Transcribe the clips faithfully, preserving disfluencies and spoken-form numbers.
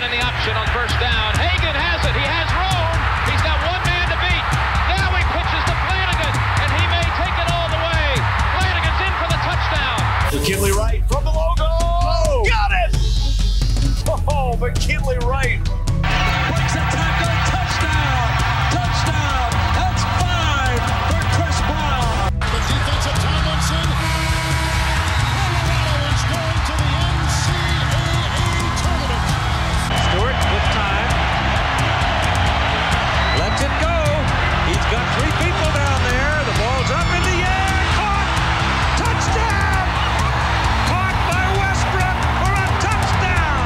in the option on first down. Hagan has it. He has room. He's got one man to beat. Now he pitches to Flanagan, and he may take it all the way. Flanagan's in for the touchdown. McKinley Wright from the logo. Oh, got it! Oh, McKinley Wright. Breaks a tackle. Touchdown. Touchdown. That's five for Chris Brown. The defensive Tomlinson. Colorado is going to the N C double A tournament. Stewart with time. Lets it go. He's got three people down there. The ball's up in the air. Caught. Touchdown. Caught by Westbrook for a touchdown.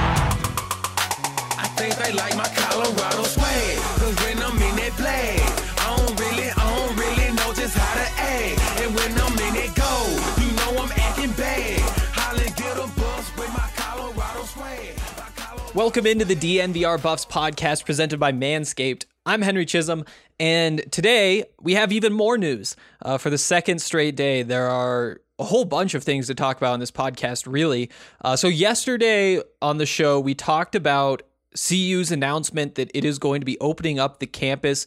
I think they like my Colorado swag. Cause when I'm in that play, I don't really, I don't really know just how to act. And when I'm in it go, you know I'm acting bad. Holland get a bus with my Colorado swag. My Colorado- Welcome into the D N V R Buffs podcast presented by Manscaped. I'm Henry Chisholm, and today we have even more news. Uh, for the second straight day, there are a whole bunch of things to talk about on this podcast, really. Uh, so yesterday on the show, we talked about C U's announcement that it is going to be opening up the campus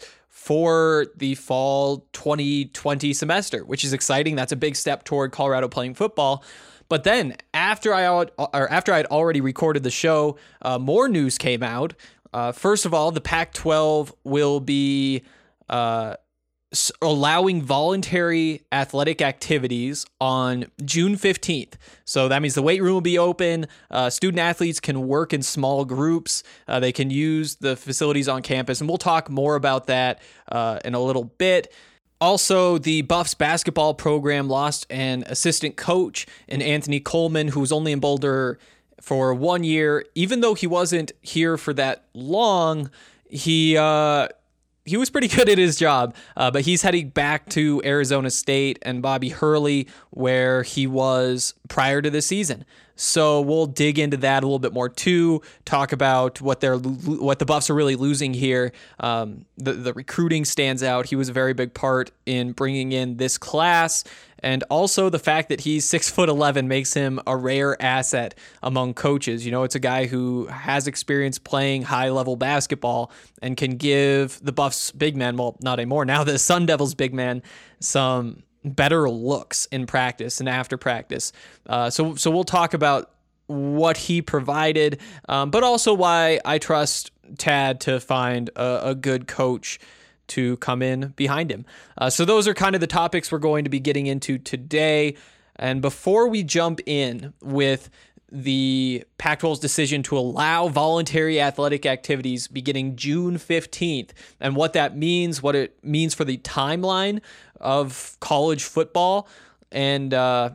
for the fall twenty twenty semester, which is exciting. That's a big step toward Colorado playing football. But then after I or after I'd already recorded the show, uh, more news came out. Uh, first of all, the Pac twelve will be uh, s- allowing voluntary athletic activities on June fifteenth. So that means the weight room will be open. Uh, student athletes can work in small groups. Uh, they can use the facilities on campus. And we'll talk more about that uh, in a little bit. Also, the Buffs basketball program lost an assistant coach in Anthony Coleman, who was only in Boulder for one year. Even though he wasn't here for that long, he uh, he was pretty good at his job. Uh, but he's heading back to Arizona State and Bobby Hurley, where he was prior to the season. So we'll dig into that a little bit more too. Talk about what they're what the Buffs are really losing here. Um, the the recruiting stands out. He was a very big part in bringing in this class, and also the fact that he's six foot eleven makes him a rare asset among coaches. You know, it's a guy who has experience playing high level basketball and can give the Buffs big men, well, not anymore now, the Sun Devils big men, some better looks in practice and after practice. Uh, so so we'll talk about what he provided, um, but also why I trust Tad to find a, a good coach to come in behind him. Uh, so those are kind of the topics we're going to be getting into today. And before we jump in with the Pac twelve's decision to allow voluntary athletic activities beginning June fifteenth and what that means, what it means for the timeline of college football, and uh,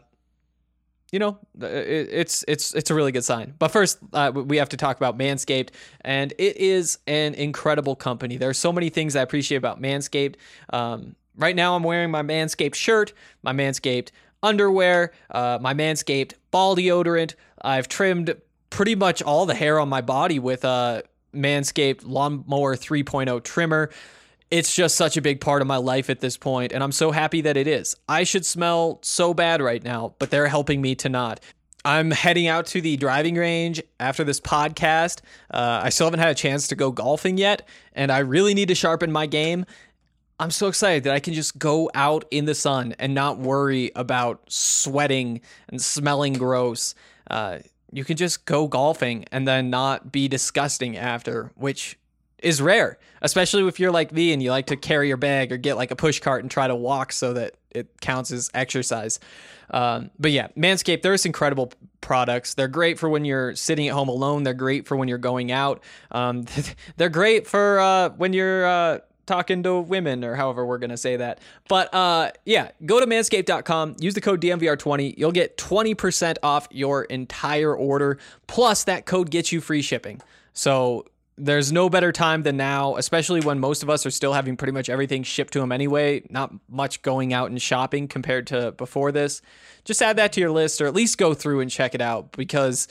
you know, it, it's it's it's a really good sign. But first, uh, we have to talk about Manscaped, and it is an incredible company. There are so many things I appreciate about Manscaped. Um, right now, I'm wearing my Manscaped shirt, my Manscaped underwear, uh, my Manscaped ball deodorant. I've trimmed pretty much all the hair on my body with a Manscaped Lawnmower three point oh trimmer. It's just such a big part of my life at this point, and I'm so happy that it is. I should smell so bad right now, but they're helping me to not. I'm heading out to the driving range after this podcast. Uh, I still haven't had a chance to go golfing yet, and I really need to sharpen my game. I'm so excited that I can just go out in the sun and not worry about sweating and smelling gross. Uh, you can just go golfing and then not be disgusting after, which is rare, especially if you're like me and you like to carry your bag or get like a push cart and try to walk so that it counts as exercise. Um, but yeah, Manscaped, there's incredible products. They're great for when you're sitting at home alone. They're great for when you're going out. Um, they're great for uh, when you're uh, talking to women, or however we're going to say that. But uh, yeah, go to manscaped dot com, use the code D M V R twenty. You'll get twenty percent off your entire order. Plus that code gets you free shipping. So there's no better time than now, especially when most of us are still having pretty much everything shipped to them anyway. Not much going out and shopping compared to before this. Just add that to your list, or at least go through and check it out, because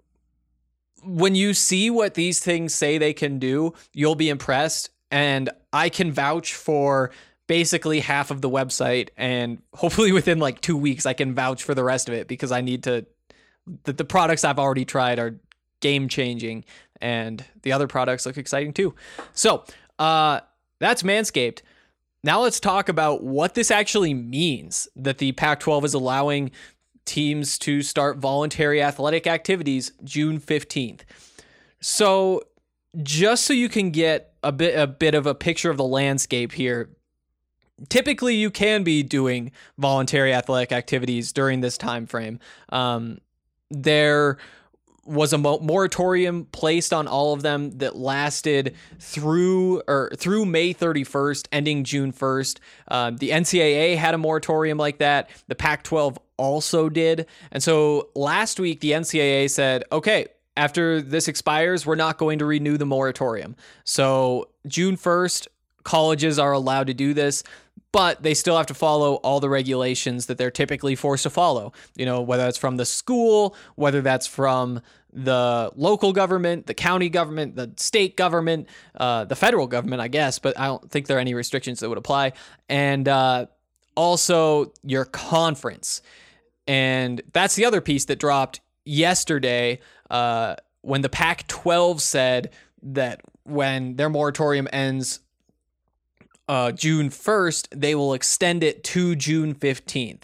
when you see what these things say they can do, you'll be impressed. And I can vouch for basically half of the website, and hopefully within like two weeks, I can vouch for the rest of it, because I need to, the, the products I've already tried are game changing, and the other products look exciting too. So uh, that's Manscaped. Now let's talk about what this actually means, that the Pac twelve is allowing teams to start voluntary athletic activities June fifteenth. So just so you can get a bit a bit of a picture of the landscape here, typically you can be doing voluntary athletic activities during this time frame. Um, there was a moratorium placed on all of them that lasted through or through May thirty-first, ending June first. Uh, the N C double A had a moratorium like that. The Pac twelve also did. And so last week, the N C double A said, okay, after this expires, we're not going to renew the moratorium. So June first, colleges are allowed to do this, but they still have to follow all the regulations that they're typically forced to follow. You know, whether that's from the school, whether that's from the local government, the county government, the state government, uh, the federal government, I guess, but I don't think there are any restrictions that would apply. And uh, also your conference. And that's the other piece that dropped yesterday uh, when the Pac twelve said that when their moratorium ends Uh, June first, they will extend it to June fifteenth.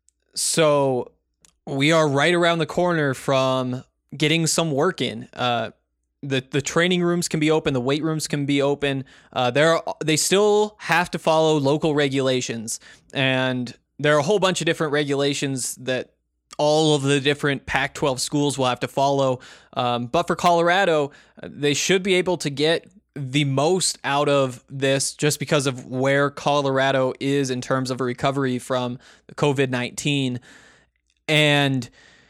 So we are right around the corner from getting some work in. Uh, the the training rooms can be open, the weight rooms can be open. Uh, there are, they still have to follow local regulations, and there are a whole bunch of different regulations that all of the different Pac twelve schools will have to follow. Um, but for Colorado, they should be able to get the most out of this just because of where Colorado is in terms of a recovery from covid nineteen. And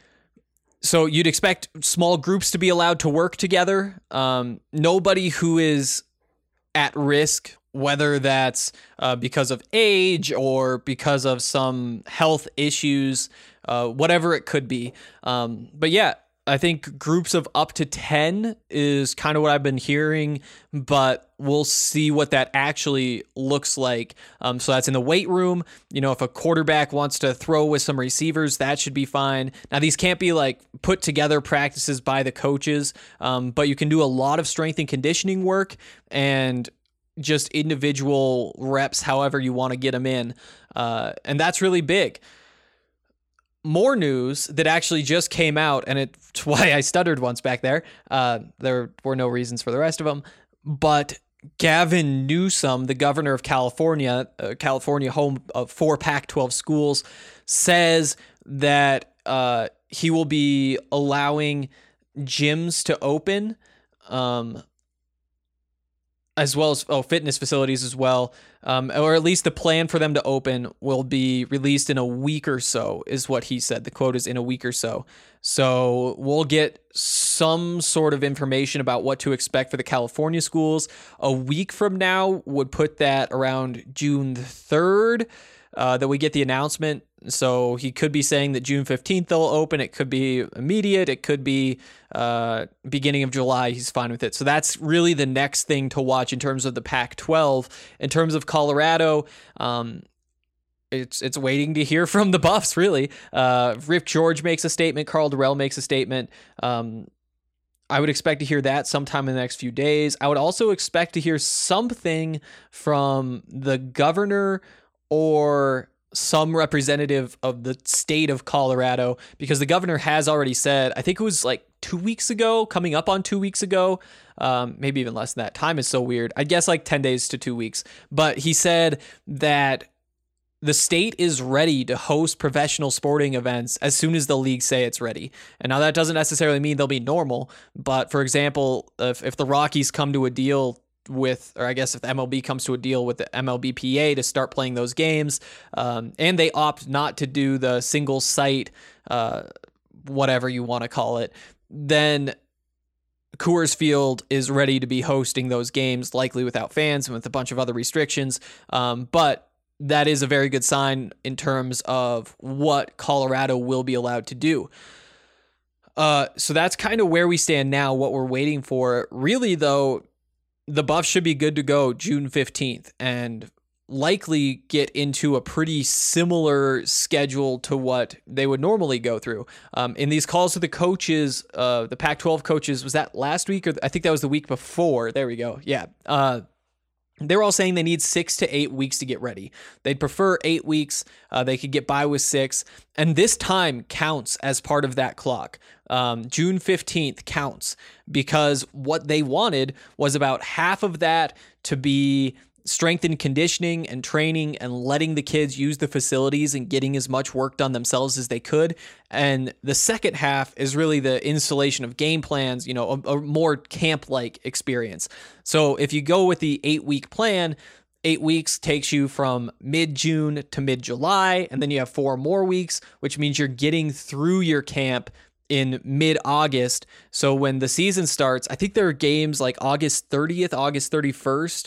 so you'd expect small groups to be allowed to work together. Um, nobody who is at risk, whether that's uh, because of age or because of some health issues, uh, whatever it could be. Um, but yeah, I think groups of up to ten is kind of what I've been hearing, but we'll see what that actually looks like. Um, so that's in the weight room. You know, if a quarterback wants to throw with some receivers, that should be fine. Now, these can't be like put together practices by the coaches, um, but you can do a lot of strength and conditioning work and just individual reps, however you want to get them in. Uh, and that's really big. More news that actually just came out, and it's why I stuttered once back there. Uh, there were no reasons for the rest of them, but Gavin Newsom, the governor of California, uh, California home of four Pac twelve schools, says that uh, he will be allowing gyms to open, um, as well as oh, fitness facilities as well. Um, or at least the plan for them to open will be released in a week or so, is what he said. The quote is in a week or so. So we'll get some sort of information about what to expect for the California schools. A week from now would put that around June third uh, that we get the announcement. So he could be saying that June fifteenth they'll open. It could be immediate. It could be uh, beginning of July. He's fine with it. So that's really the next thing to watch in terms of the Pac twelve. In terms of Colorado, um, it's it's waiting to hear from the Buffs, really. Uh, Rick George makes a statement. Karl Dorrell makes a statement. Um, I would expect to hear that sometime in the next few days. I would also expect to hear something from the governor or some representative of the state of Colorado, because the governor has already said, I think it was like two weeks ago, coming up on two weeks ago, um, maybe even less than that. Time is so weird. I guess like ten days to two weeks. But he said that the state is ready to host professional sporting events as soon as the league say it's ready. And now that doesn't necessarily mean they'll be normal. But for example, if, if the Rockies come to a deal with, or I guess if the M L B comes to a deal with the M L B P A to start playing those games, um, and they opt not to do the single site, uh, whatever you want to call it, then Coors Field is ready to be hosting those games, likely without fans and with a bunch of other restrictions. Um, but that is a very good sign in terms of what Colorado will be allowed to do. Uh, so that's kind of where we stand now, what we're waiting for. Really, though, the Buffs should be good to go June fifteenth. And likely get into a pretty similar schedule to what they would normally go through. Um, in these calls with the coaches, uh, the Pac twelve coaches, was that last week or I think that was the week before? There we go. Yeah. Uh, They're all saying they need six to eight weeks to get ready. They'd prefer eight weeks. Uh, they could get by with six. And this time counts as part of that clock. Um, June fifteenth counts because what they wanted was about half of that to be strength and conditioning and training and letting the kids use the facilities and getting as much work done themselves as they could. And the second half is really the installation of game plans, you know, a, a more camp-like experience. So if you go with the eight-week plan, eight weeks takes you from mid-June to mid-July, and then you have four more weeks, which means you're getting through your camp in mid-August. So when the season starts, I think there are games like August thirtieth, August thirty-first.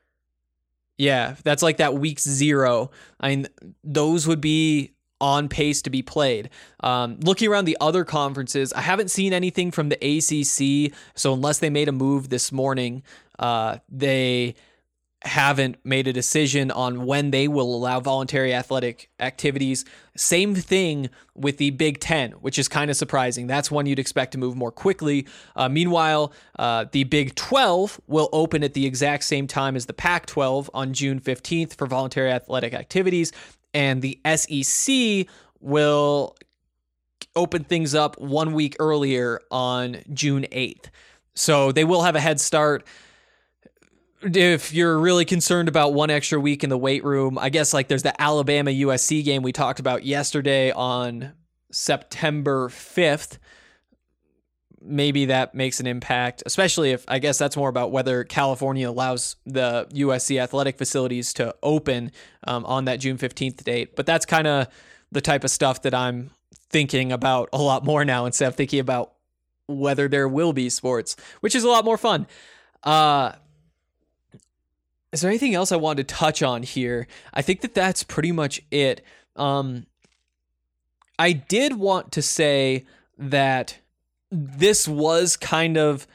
Yeah, that's like that week zero. I mean, those would be on pace to be played. Um, looking around the other conferences, I haven't seen anything from the A C C. So unless they made a move this morning, uh, they haven't made a decision on when they will allow voluntary athletic activities. Same thing with the Big Ten, which is kind of surprising. That's one you'd expect to move more quickly. Uh, meanwhile, uh, the Big twelve will open at the exact same time as the Pac twelve on June fifteenth for voluntary athletic activities. And the S E C will open things up one week earlier on June eighth. So they will have a head start. If you're really concerned about one extra week in the weight room, I guess like there's the Alabama U S C game we talked about yesterday on September fifth. Maybe that makes an impact, especially if I guess that's more about whether California allows the U S C athletic facilities to open um, on that June fifteenth date. But that's kind of the type of stuff that I'm thinking about a lot more now instead of thinking about whether there will be sports, which is a lot more fun. Uh, Is there anything else I wanted to touch on here? I think that that's pretty much it. Um, I did want to say that this was kind of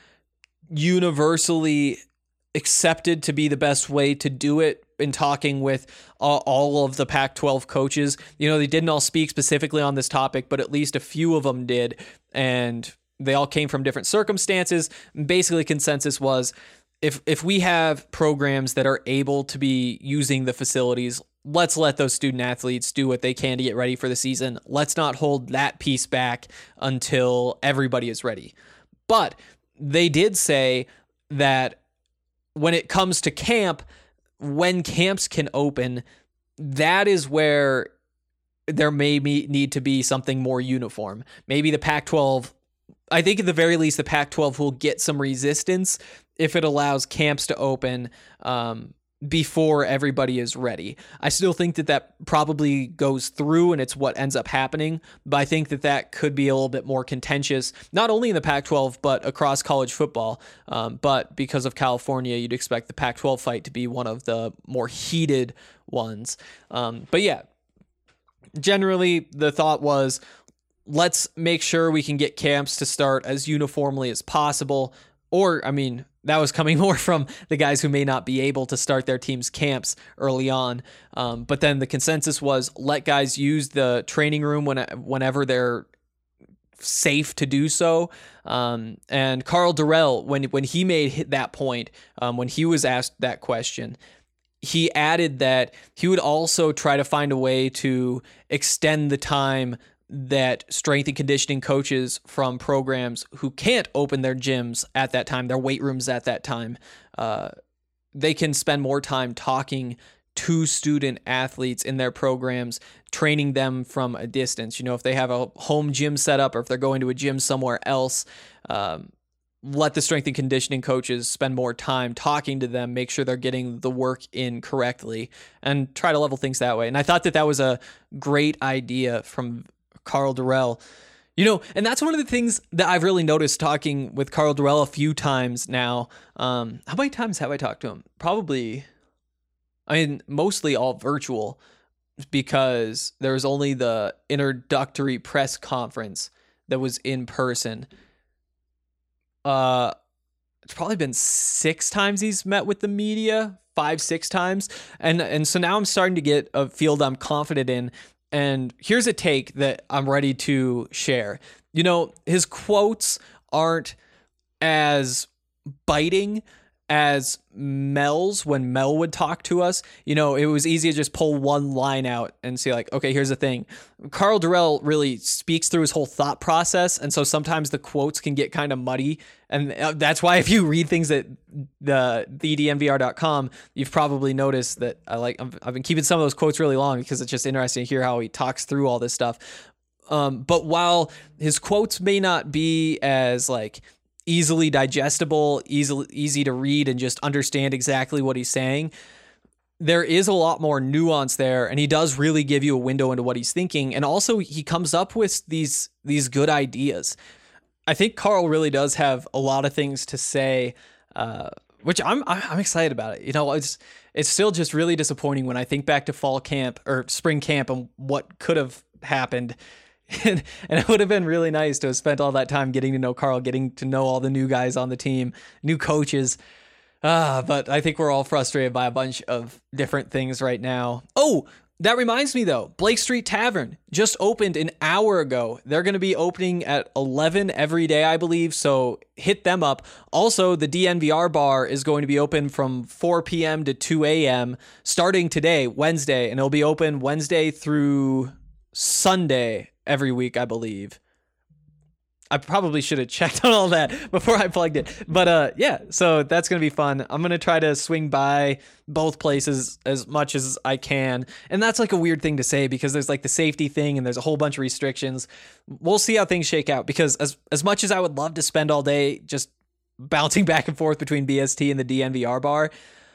universally accepted to be the best way to do it in talking with uh, all of the Pac twelve coaches. You know, they didn't all speak specifically on this topic, but at least a few of them did. And they all came from different circumstances. Basically, consensus was, If if we have programs that are able to be using the facilities, let's let those student athletes do what they can to get ready for the season. Let's not hold that piece back until everybody is ready. But they did say that when it comes to camp, when camps can open, that is where there may be, need to be something more uniform. Maybe the Pac twelve, I think at the very least, the Pac twelve will get some resistance if it allows camps to open um, before everybody is ready. I still think that that probably goes through and it's what ends up happening, but I think that that could be a little bit more contentious, not only in the Pac twelve, but across college football. Um, but because of California, you'd expect the Pac twelve fight to be one of the more heated ones. Um, but yeah, generally the thought was, let's make sure we can get camps to start as uniformly as possible. Or, I mean, that was coming more from the guys who may not be able to start their team's camps early on. Um, but then the consensus was let guys use the training room when, whenever they're safe to do so. Um, and Karl Dorrell, when, when he made that point, um, when he was asked that question, he added that he would also try to find a way to extend the time that strength and conditioning coaches from programs who can't open their gyms at that time, their weight rooms at that time, uh, they can spend more time talking to student athletes in their programs, training them from a distance. You know, if they have a home gym set up or if they're going to a gym somewhere else, um, let the strength and conditioning coaches spend more time talking to them, make sure they're getting the work in correctly, and try to level things that way. And I thought that that was a great idea from Karl Dorrell. You know, and that's one of the things that I've really noticed talking with Karl Dorrell a few times now. Um, how many times have I talked to him? Probably, I mean, mostly all virtual, because there was only the introductory press conference that was in person. Uh, it's probably been six times he's met with the media, five, six times. And, and so now I'm starting to get a field I'm confident in. And here's a take that I'm ready to share. You know, his quotes aren't as biting as Mel's when Mel would talk to us. You know, it was easy to just pull one line out and say like, okay, here's the thing. Karl Dorrell really speaks through his whole thought process. And so sometimes the quotes can get kind of muddy. And that's why if you read things at the, the D N V R dot com, you've probably noticed that I like, I've been keeping some of those quotes really long because it's just interesting to hear how he talks through all this stuff. Um, but while his quotes may not be as like easily digestible, easily easy to read and just understand exactly what he's saying, there is a lot more nuance there, and he does really give you a window into what he's thinking. And also he comes up with these these good ideas. I think Karl really does have a lot of things to say, uh, which I'm I'm excited about it. You know, it's it's still just really disappointing when I think back to fall camp or spring camp and what could have happened. And, and it would have been really nice to have spent all that time getting to know Karl, getting to know all the new guys on the team, new coaches. Ah, but I think we're all frustrated by a bunch of different things right now. Oh, that reminds me though, Blake Street Tavern just opened an hour ago. They're going to be opening at eleven every day, I believe. So hit them up. Also, the D N V R bar is going to be open from four p.m. to two a.m. starting today, Wednesday, and it'll be open Wednesday through Sunday every week, I believe. I probably should have checked on all that before I plugged it. But uh, yeah, so that's going to be fun. I'm going to try to swing by both places as much as I can. And that's like a weird thing to say because there's like the safety thing and there's a whole bunch of restrictions. We'll see how things shake out because as, as much as I would love to spend all day just bouncing back and forth between B S T and the D N V R bar,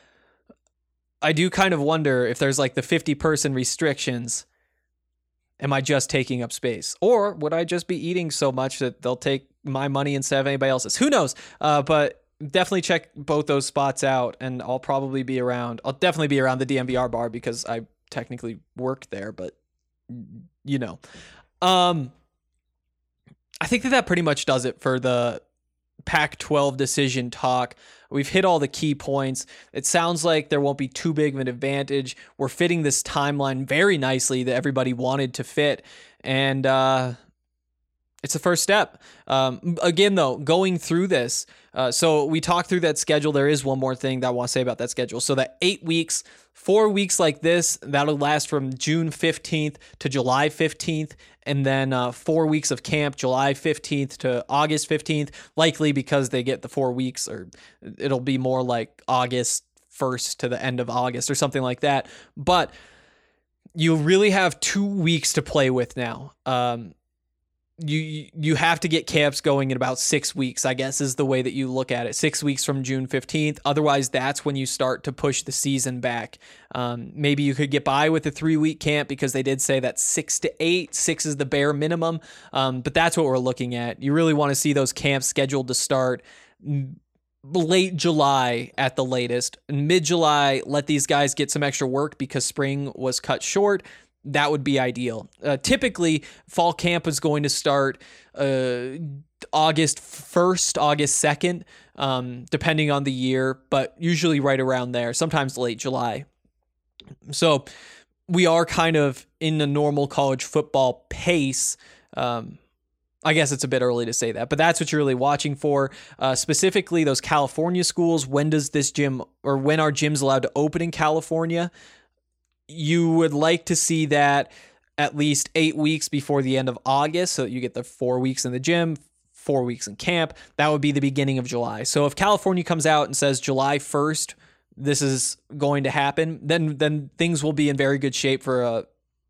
I do kind of wonder if there's like the fifty person restrictions. Am I just taking up space? Or would I just be eating so much that they'll take my money instead of anybody else's? Who knows? Uh, but definitely check both those spots out, and I'll probably be around. I'll definitely be around the D N V R bar because I technically work there, but you know. Um, I think that that pretty much does it for the Pac twelve decision talk. We've hit all the key points. It sounds like there won't be too big of an advantage. We're fitting this timeline very nicely that everybody wanted to fit. And uh, it's the first step. Um, again, though, going through this. Uh, so we talked through that schedule. There is one more thing that I want to say about that schedule. So that eight weeks, four weeks like this, that'll last from June fifteenth to July fifteenth. And then uh, four weeks of camp, July fifteenth to August fifteenth, likely because they get the four weeks, or it'll be more like August first to the end of August or something like that. But you really have two weeks to play with now. Um, you you have to get camps going in about six weeks, I guess, is the way that you look at it. Six weeks from June fifteenth. Otherwise, that's when you start to push the season back. Um, maybe you could get by with a three-week camp because they did say that six to eight. Six is the bare minimum. Um, but that's what we're looking at. You really want to see those camps scheduled to start late July at the latest. Mid-July, let these guys get some extra work because spring was cut short. That would be ideal. Uh, typically, fall camp is going to start uh, August first, August second, um, depending on the year, but usually right around there, sometimes late July. So we are kind of in the normal college football pace. Um, I guess it's a bit early to say that, but that's what you're really watching for. Uh, specifically, those California schools. When does this gym, or when are gyms allowed to open in California? You would like to see that at least eight weeks before the end of August, so that you get the four weeks in the gym, four weeks in camp. That would be the beginning of July. So if California comes out and says July first, this is going to happen, then then things will be in very good shape for a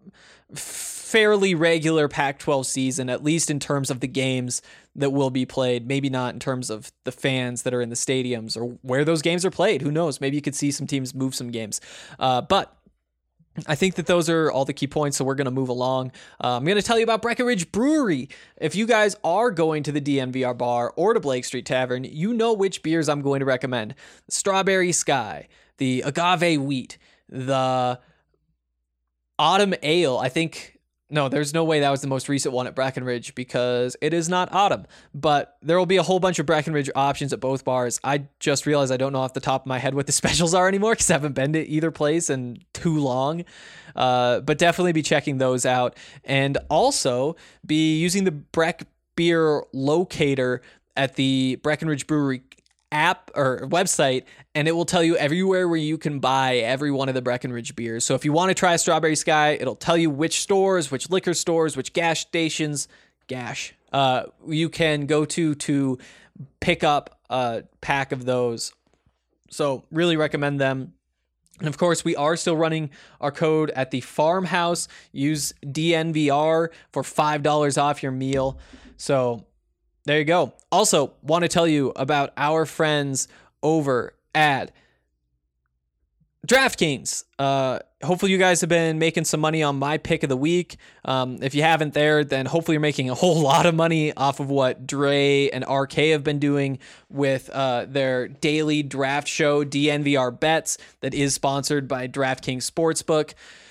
fairly regular Pac twelve season, at least in terms of the games that will be played. Maybe not in terms of the fans that are in the stadiums or where those games are played. Who knows? Maybe you could see some teams move some games. Uh, but I think that those are all the key points, so we're going to move along. Uh, I'm going to tell you about Breckenridge Brewery. If you guys are going to the D N V R bar or to Blake Street Tavern, you know which beers I'm going to recommend. The Strawberry Sky, the Agave Wheat, the Autumn Ale. I think no, there's no way that was the most recent one at Breckenridge because it is not autumn. But there will be a whole bunch of Breckenridge options at both bars. I just realized I don't know off the top of my head what the specials are anymore because I haven't been to either place in too long. Uh, but definitely be checking those out. And also be using the Breck Beer locator at the Breckenridge Brewery app or website, and it will tell you everywhere where you can buy every one of the Breckenridge beers. So if you want to try Strawberry Sky, it'll tell you which stores, which liquor stores, which gas stations, gash, uh, you can go to to pick up a pack of those. So really recommend them. And of course, we are still running our code at the Farmhouse. Use D N V R for five dollars off your meal. So there you go. Also, want to tell you about our friends over at DraftKings. Uh, hopefully you guys have been making some money on my pick of the week. Um, if you haven't there, then hopefully you're making a whole lot of money off of what Dre and R K have been doing with uh, their daily draft show, D N V R Bets, that is sponsored by DraftKings Sportsbook.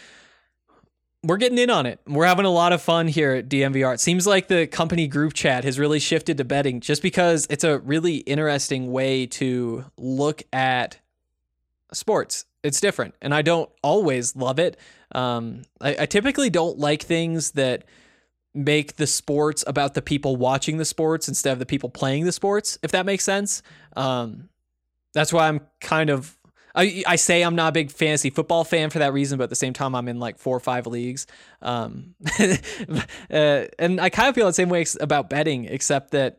We're getting in on it. We're having a lot of fun here at D N V R. It seems like the company group chat has really shifted to betting just because it's a really interesting way to look at sports. It's different, and I don't always love it. Um, I, I typically don't like things that make the sports about the people watching the sports instead of the people playing the sports, if that makes sense. Um, that's why I'm kind of... I, I say I'm not a big fantasy football fan for that reason, but at the same time, I'm in like four or five leagues. Um, uh, and I kind of feel the same way about betting, except that,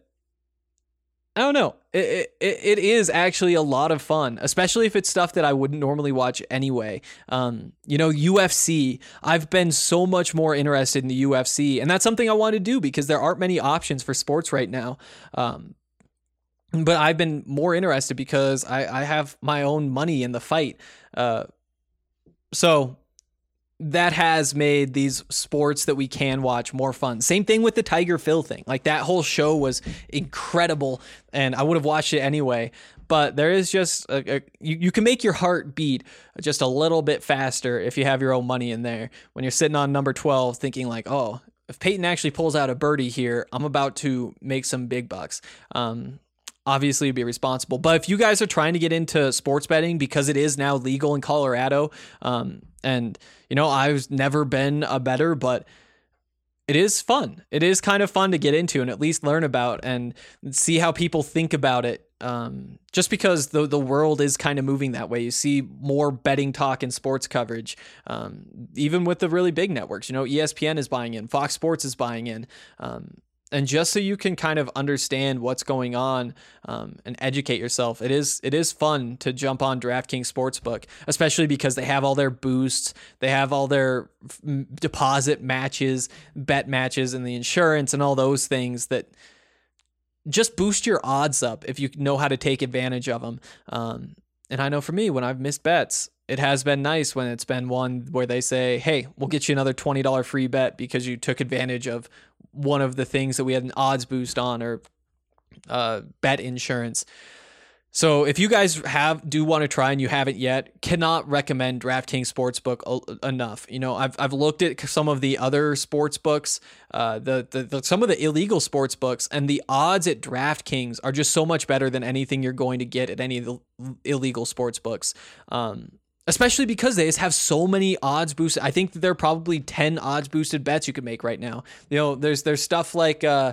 I don't know, it, it, it is actually a lot of fun, especially if it's stuff that I wouldn't normally watch anyway. Um, you know, U F C, I've been so much more interested in the U F C, and that's something I want to do because there aren't many options for sports right now. Um, But I've been more interested because I, I have my own money in the fight. Uh, so that has made these sports that we can watch more fun. Same thing with the Tiger Phil thing. Like that whole show was incredible and I would have watched it anyway. But there is just, a, a, you, you can make your heart beat just a little bit faster if you have your own money in there. When you're sitting on number twelve thinking like, oh, if Peyton actually pulls out a birdie here, I'm about to make some big bucks. Um, Obviously, be responsible. But if you guys are trying to get into sports betting because it is now legal in Colorado, um, and, you know, I've never been a bettor, but it is fun. It is kind of fun to get into and at least learn about and see how people think about it. Um, just because the the world is kind of moving that way. You see more betting talk and sports coverage, um, even with the really big networks. You know, E S P N is buying in, Fox Sports is buying in. Um, And just so you can kind of understand what's going on um, and educate yourself, it is it is fun to jump on DraftKings Sportsbook, especially because they have all their boosts, they have all their f- deposit matches, bet matches, and the insurance and all those things that just boost your odds up if you know how to take advantage of them. Um, and I know for me, when I've missed bets, it has been nice when it's been one where they say, hey, we'll get you another twenty dollars free bet because you took advantage of one of the things that we had an odds boost on or uh, bet insurance. So if you guys have do want to try and you haven't yet, cannot recommend DraftKings Sportsbook enough. You know, I've I've looked at some of the other sports books, uh, the, the, the some of the illegal sports books, and the odds at DraftKings are just so much better than anything you're going to get at any of the illegal sports books. Um, Especially because they just have so many odds boosted. I think that there are probably ten odds boosted bets you could make right now. You know, there's there's stuff like uh,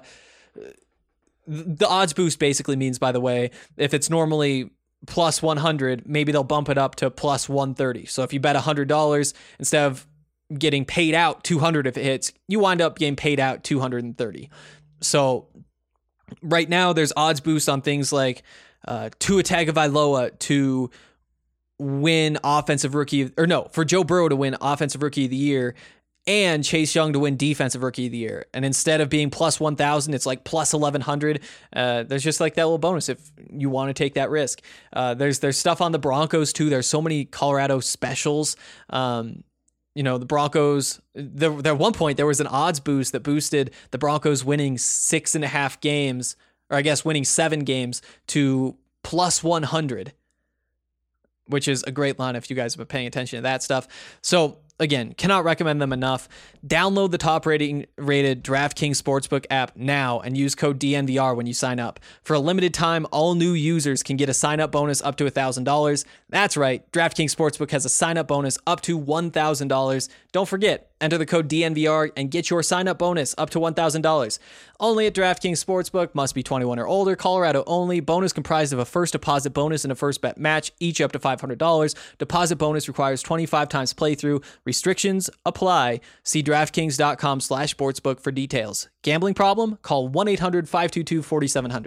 the odds boost basically means, by the way, if it's normally plus one hundred, maybe they'll bump it up to plus one thirty. So if you bet one hundred dollars, instead of getting paid out two hundred if it hits, you wind up getting paid out two hundred thirty. So right now there's odds boost on things like uh, Tua Tagovailoa to win offensive rookie, or no, for Joe Burrow to win offensive rookie of the year and Chase Young to win defensive rookie of the year. And instead of being plus one thousand, it's like plus eleven hundred. Uh, there's just like that little bonus if you want to take that risk. Uh, there's, there's stuff on the Broncos too. There's so many Colorado specials. Um, you know, the Broncos, there, there at one point there was an odds boost that boosted the Broncos winning six and a half games, or I guess winning seven games to plus one hundred. Which is a great line if you guys have been paying attention to that stuff. So Again, cannot recommend them enough. Download the top rating rated DraftKings Sportsbook app now and use code D N V R when you sign up. For a limited time, all new users can get a sign up bonus up to one thousand dollars. That's right, DraftKings Sportsbook has a sign up bonus up to one thousand dollars. Don't forget, enter the code D N V R and get your sign up bonus up to one thousand dollars. Only at DraftKings Sportsbook, must be twenty-one or older, Colorado only. Bonus comprised of a first deposit bonus and a first bet match, each up to five hundred dollars. Deposit bonus requires twenty-five times playthrough. Restrictions apply. See DraftKings.com slash sportsbook for details. Gambling problem? Call one eight hundred five two two four seven zero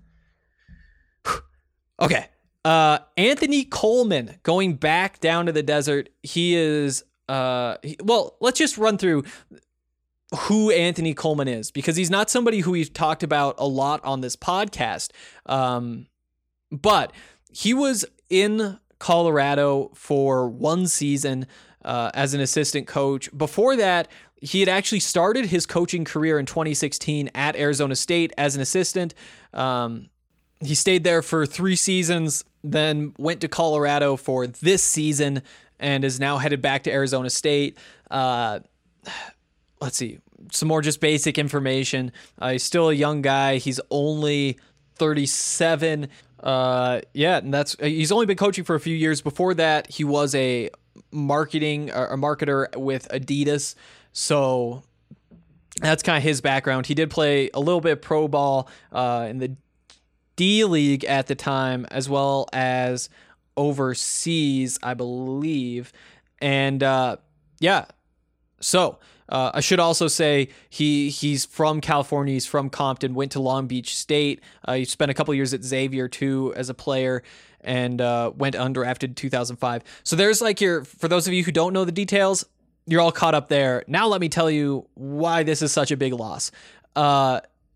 zero. Okay. Uh, Anthony Coleman going back down to the desert. He is, uh, he, well, let's just run through who Anthony Coleman is, because he's not somebody who we've talked about a lot on this podcast. Um, but he was in Colorado for one season uh, as an assistant coach. Before that, he had actually started his coaching career in twenty sixteen at Arizona State as an assistant. Um, he stayed there for three seasons, then went to Colorado for this season and is now headed back to Arizona State. Uh, let's see, some more just basic information. Uh, he's still a young guy. He's only thirty-seven. Uh, yeah, and that's, he's only been coaching for a few years. Before that, he was a marketing, a marketer with Adidas. So that's kind of his background. He did play a little bit of pro ball uh, in the D League at the time, as well as overseas, I believe. And uh, yeah, so uh, I should also say he he's from California. He's from Compton, went to Long Beach State. Uh, he spent a couple years at Xavier too as a player, and uh, went undrafted in two thousand five. So there's like your, for those of you who don't know the details, you're all caught up there. Now let me tell you why this is such a big loss. Uh,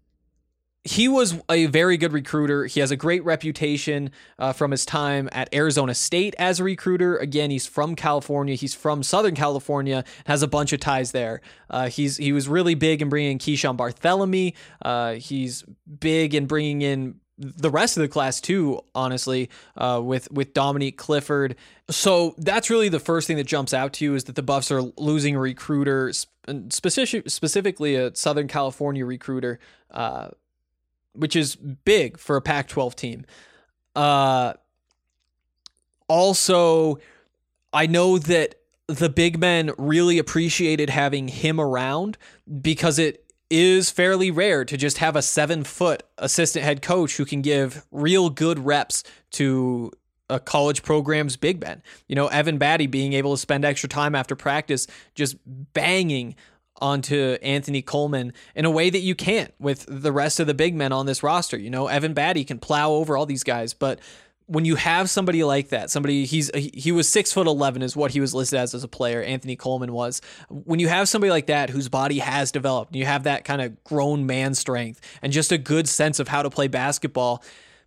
he was a very good recruiter. He has a great reputation uh, from his time at Arizona State as a recruiter. Again, he's from California. He's from Southern California, has a bunch of ties there. Uh, he's he was really big in bringing in Keyshawn Barthélemy. Uh, he's big in bringing in the rest of the class too, honestly, uh, with, with Dominique Clifford. So that's really the first thing that jumps out to you, is that the Buffs are losing a recruiter, specific, specifically a Southern California recruiter, uh, which is big for a Pac twelve team. Uh, also, I know that the big men really appreciated having him around, because it is fairly rare to just have a seven foot assistant head coach who can give real good reps to a college program's big men. You know, Evan Batty being able to spend extra time after practice just banging onto Anthony Coleman in a way that you can't with the rest of the big men on this roster. You know, Evan Batty can plow over all these guys, but when you have somebody like that, somebody he's he was six foot eleven is what he was listed as as a player. Anthony Coleman was. When you have somebody like that whose body has developed, and you have that kind of grown man strength and just a good sense of how to play basketball,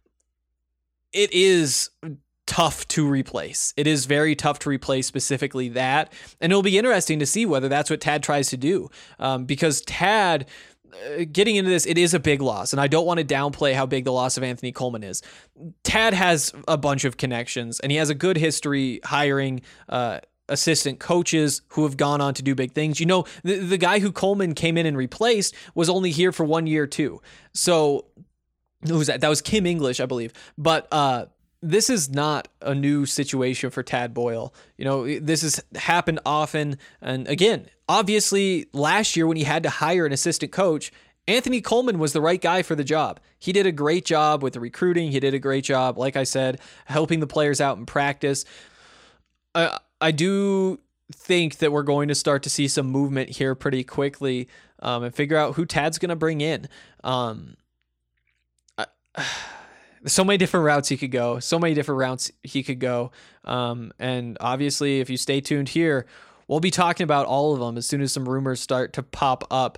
it is tough to replace. It is very tough to replace specifically that, and it'll be interesting to see whether that's what Tad tries to do, um, because Tad. Uh, getting into this, it is a big loss, and I don't want to downplay how big the loss of Anthony Coleman is. Tad has a bunch of connections, and he has a good history hiring uh, assistant coaches who have gone on to do big things. You know, the, the guy who Coleman came in and replaced was only here for one year too. So who was that? That was Kim English, I believe. But uh, this is not a new situation for Tad Boyle. You know, this has happened often. And again, obviously last year when he had to hire an assistant coach, Anthony Coleman was the right guy for the job. He did a great job with the recruiting. He did a great job, like I said, helping the players out in practice. I, I do think that we're going to start to see some movement here pretty quickly, um, and figure out who Tad's going to bring in. Um, I, So many different routes he could go. So many different routes he could go. Um, and obviously, if you stay tuned here, we'll be talking about all of them as soon as some rumors start to pop up.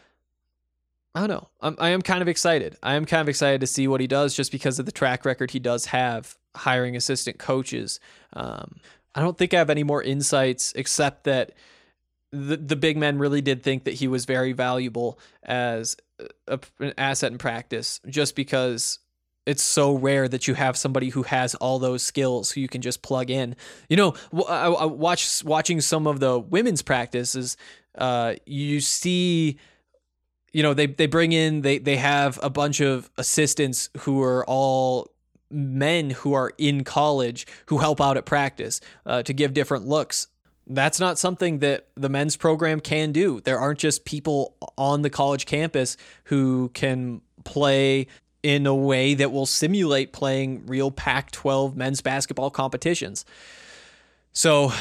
I don't know. I'm, I am kind of excited. I am kind of excited to see what he does, just because of the track record he does have hiring assistant coaches. Um, I don't think I have any more insights, except that the the big men really did think that he was very valuable as a, an asset in practice, just because it's so rare that you have somebody who has all those skills who you can just plug in. You know, I, I watch watching some of the women's practices. Uh, you see, you know, they they bring in they they have a bunch of assistants who are all men who are in college who help out at practice uh, to give different looks. That's not something that the men's program can do. There aren't just people on the college campus who can play in a way that will simulate playing real Pac twelve men's basketball competitions. So,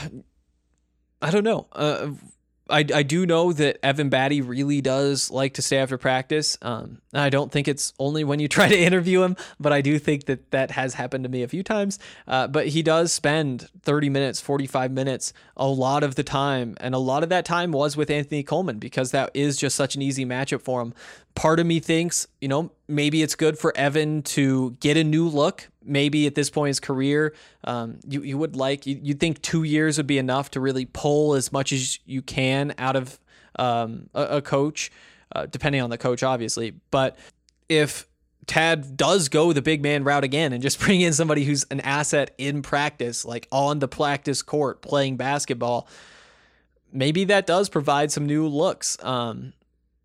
I don't know. Uh, I, I do know that Evan Batty really does like to stay after practice. Um, I don't think it's only when you try to interview him, but I do think that that has happened to me a few times. Uh, but he does spend thirty minutes, forty-five minutes, a lot of the time. And a lot of that time was with Anthony Coleman because that is just such an easy matchup for him. Part of me thinks, you know, maybe it's good for Evan to get a new look. Maybe at this point in his career, um, you, you would like, you, you'd think two years would be enough to really pull as much as you can out of um, a, a coach, uh, depending on the coach, obviously. But if Tad does go the big man route again and just bring in somebody who's an asset in practice, like on the practice court playing basketball, maybe that does provide some new looks. Um,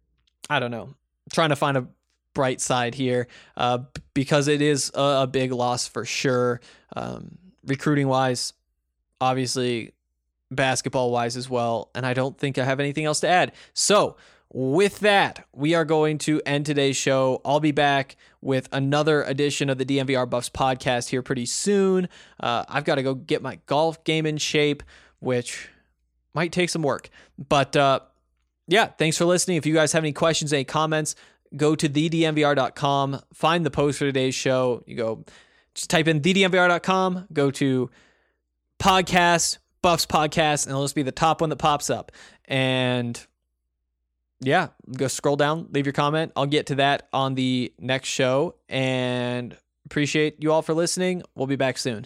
I don't know. Trying to find a bright side here uh, because it is a, a big loss for sure. Um, recruiting wise, obviously basketball wise as well. And I don't think I have anything else to add. So with that, we are going to end today's show. I'll be back with another edition of the D N V R Buffs podcast here pretty soon. Uh, I've got to go get my golf game in shape, which might take some work, but uh, yeah, thanks for listening. If you guys have any questions, any comments, go to the D N V R dot com, find the post for today's show. You go, just type in the D N V R dot com, go to podcast, Buffs podcast, and it'll just be the top one that pops up. And yeah, go scroll down, leave your comment. I'll get to that on the next show, and appreciate you all for listening. We'll be back soon.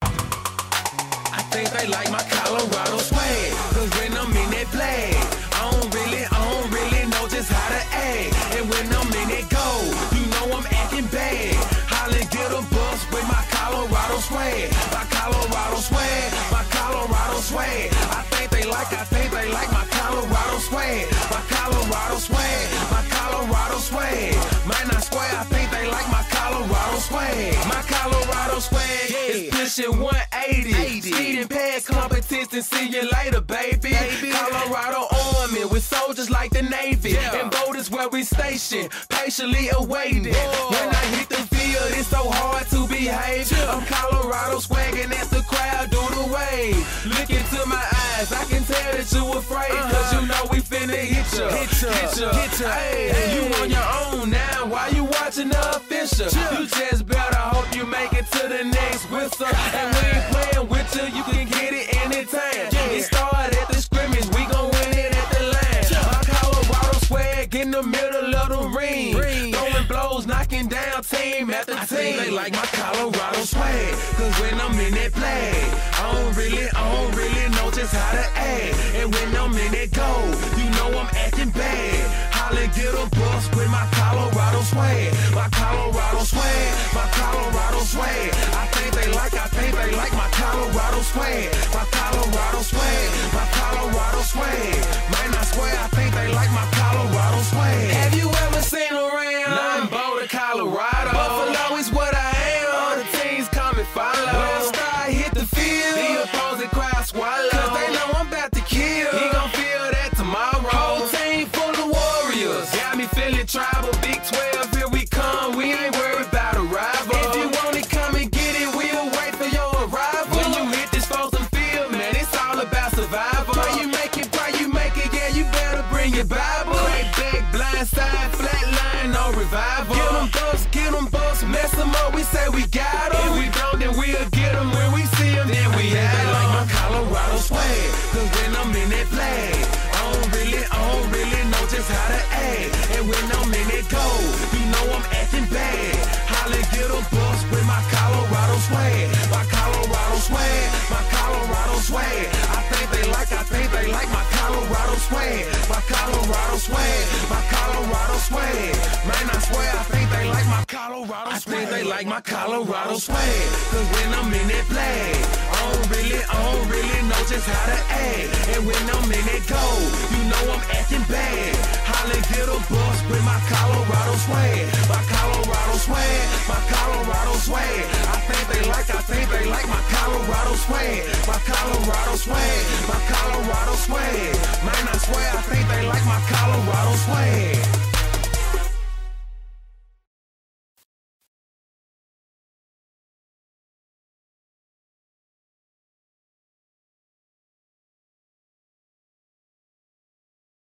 I think they like my Colorado swag, cause when I'm in that play, I don't really, I don't really know just how to act. And when I'm in that go, you know I'm acting bad. Holla, get a bus with my Colorado swag, my Colorado swag, my Colorado swag. I think they like, I think they like my Colorado swag, my Colorado swag, my Colorado swag. Might not swear, I think they like my Colorado swag, my Colorado swag is pushing one eighty. Speeding past competition, see you later, baby. baby. Colorado Army with soldiers like the Navy, yeah. And boat is where we station, patiently awaiting. Whoa. When I hit the field, it's so hard to behave. Yeah. I'm Colorado swagging as the crowd do the wave. Look into my eyes, I can tell that you afraid, uh-huh. Cause you know we finna hit ya, hit ya, hit ya, hit ya. Hey, hey. You on your own now, why you watching the official? Yeah. You just better hope you make it to the next whistle. And we ain't playing with you, you can get it anytime. Yeah. It started at the scrimmage, we gon' win it at the line. Yeah. My Colorado swag in the middle of the ring, ring. Throwing blows, knocking down team after team. I think they like my Colorado swag, cause when I'm in that play, I don't really, I don't really know just how to act. And when I'm in that go, you know I'm acting bad. Holla, get a bus with my Colorado swag, my Colorado swag, my Colorado swag. I think they like, I think they like my Colorado swag, my Colorado swag, my Colorado swag. Might not swear, I think they like my Colorado swag. Have you ever seen around? None Boulder, Colorado. Buffalo is what I am. All the teams come and follow. When I start hit the field, the opposing crowd swallow. Cause they know I'm about to kill. He gon' feel that tomorrow. Whole team full of warriors. Got me feeling tribal. Big twelve, here we come. We ain't worried about a rival. If you want it, come and get it. We'll wait for your arrival. When you hit this frozen field, man, it's all about survival. Pray you make it, pray you make it. Yeah, you better bring your Bible. Crack back, blind side, flat line, no revival. Get them bucks, get them bucks, mess them up. We say we got them. If we don't, then we'll get them. When we see them, then we have them. Like my Colorado swag, cause when I'm in that flag, I don't really, I don't really know just how to act. And when I'm in that go, you know I'm acting bad. Holla, get a bus with my Colorado swag, my Colorado swag, my Colorado swag. I think they like, I think they like my Colorado swag, my Colorado swag, my Colorado swag. Man, I swear, I think they like my Colorado I think they like my Colorado swag. Cause when I'm in that flag, I don't really, I don't really know just how to act. And when I'm in that goal, you know I'm acting bad. Holla, get a bus with my Colorado swag. My Colorado swag, my Colorado swag. I think they like, I think they like my Colorado swag. My Colorado swag, my Colorado swag. Man, I swear, I think they like my Colorado swag.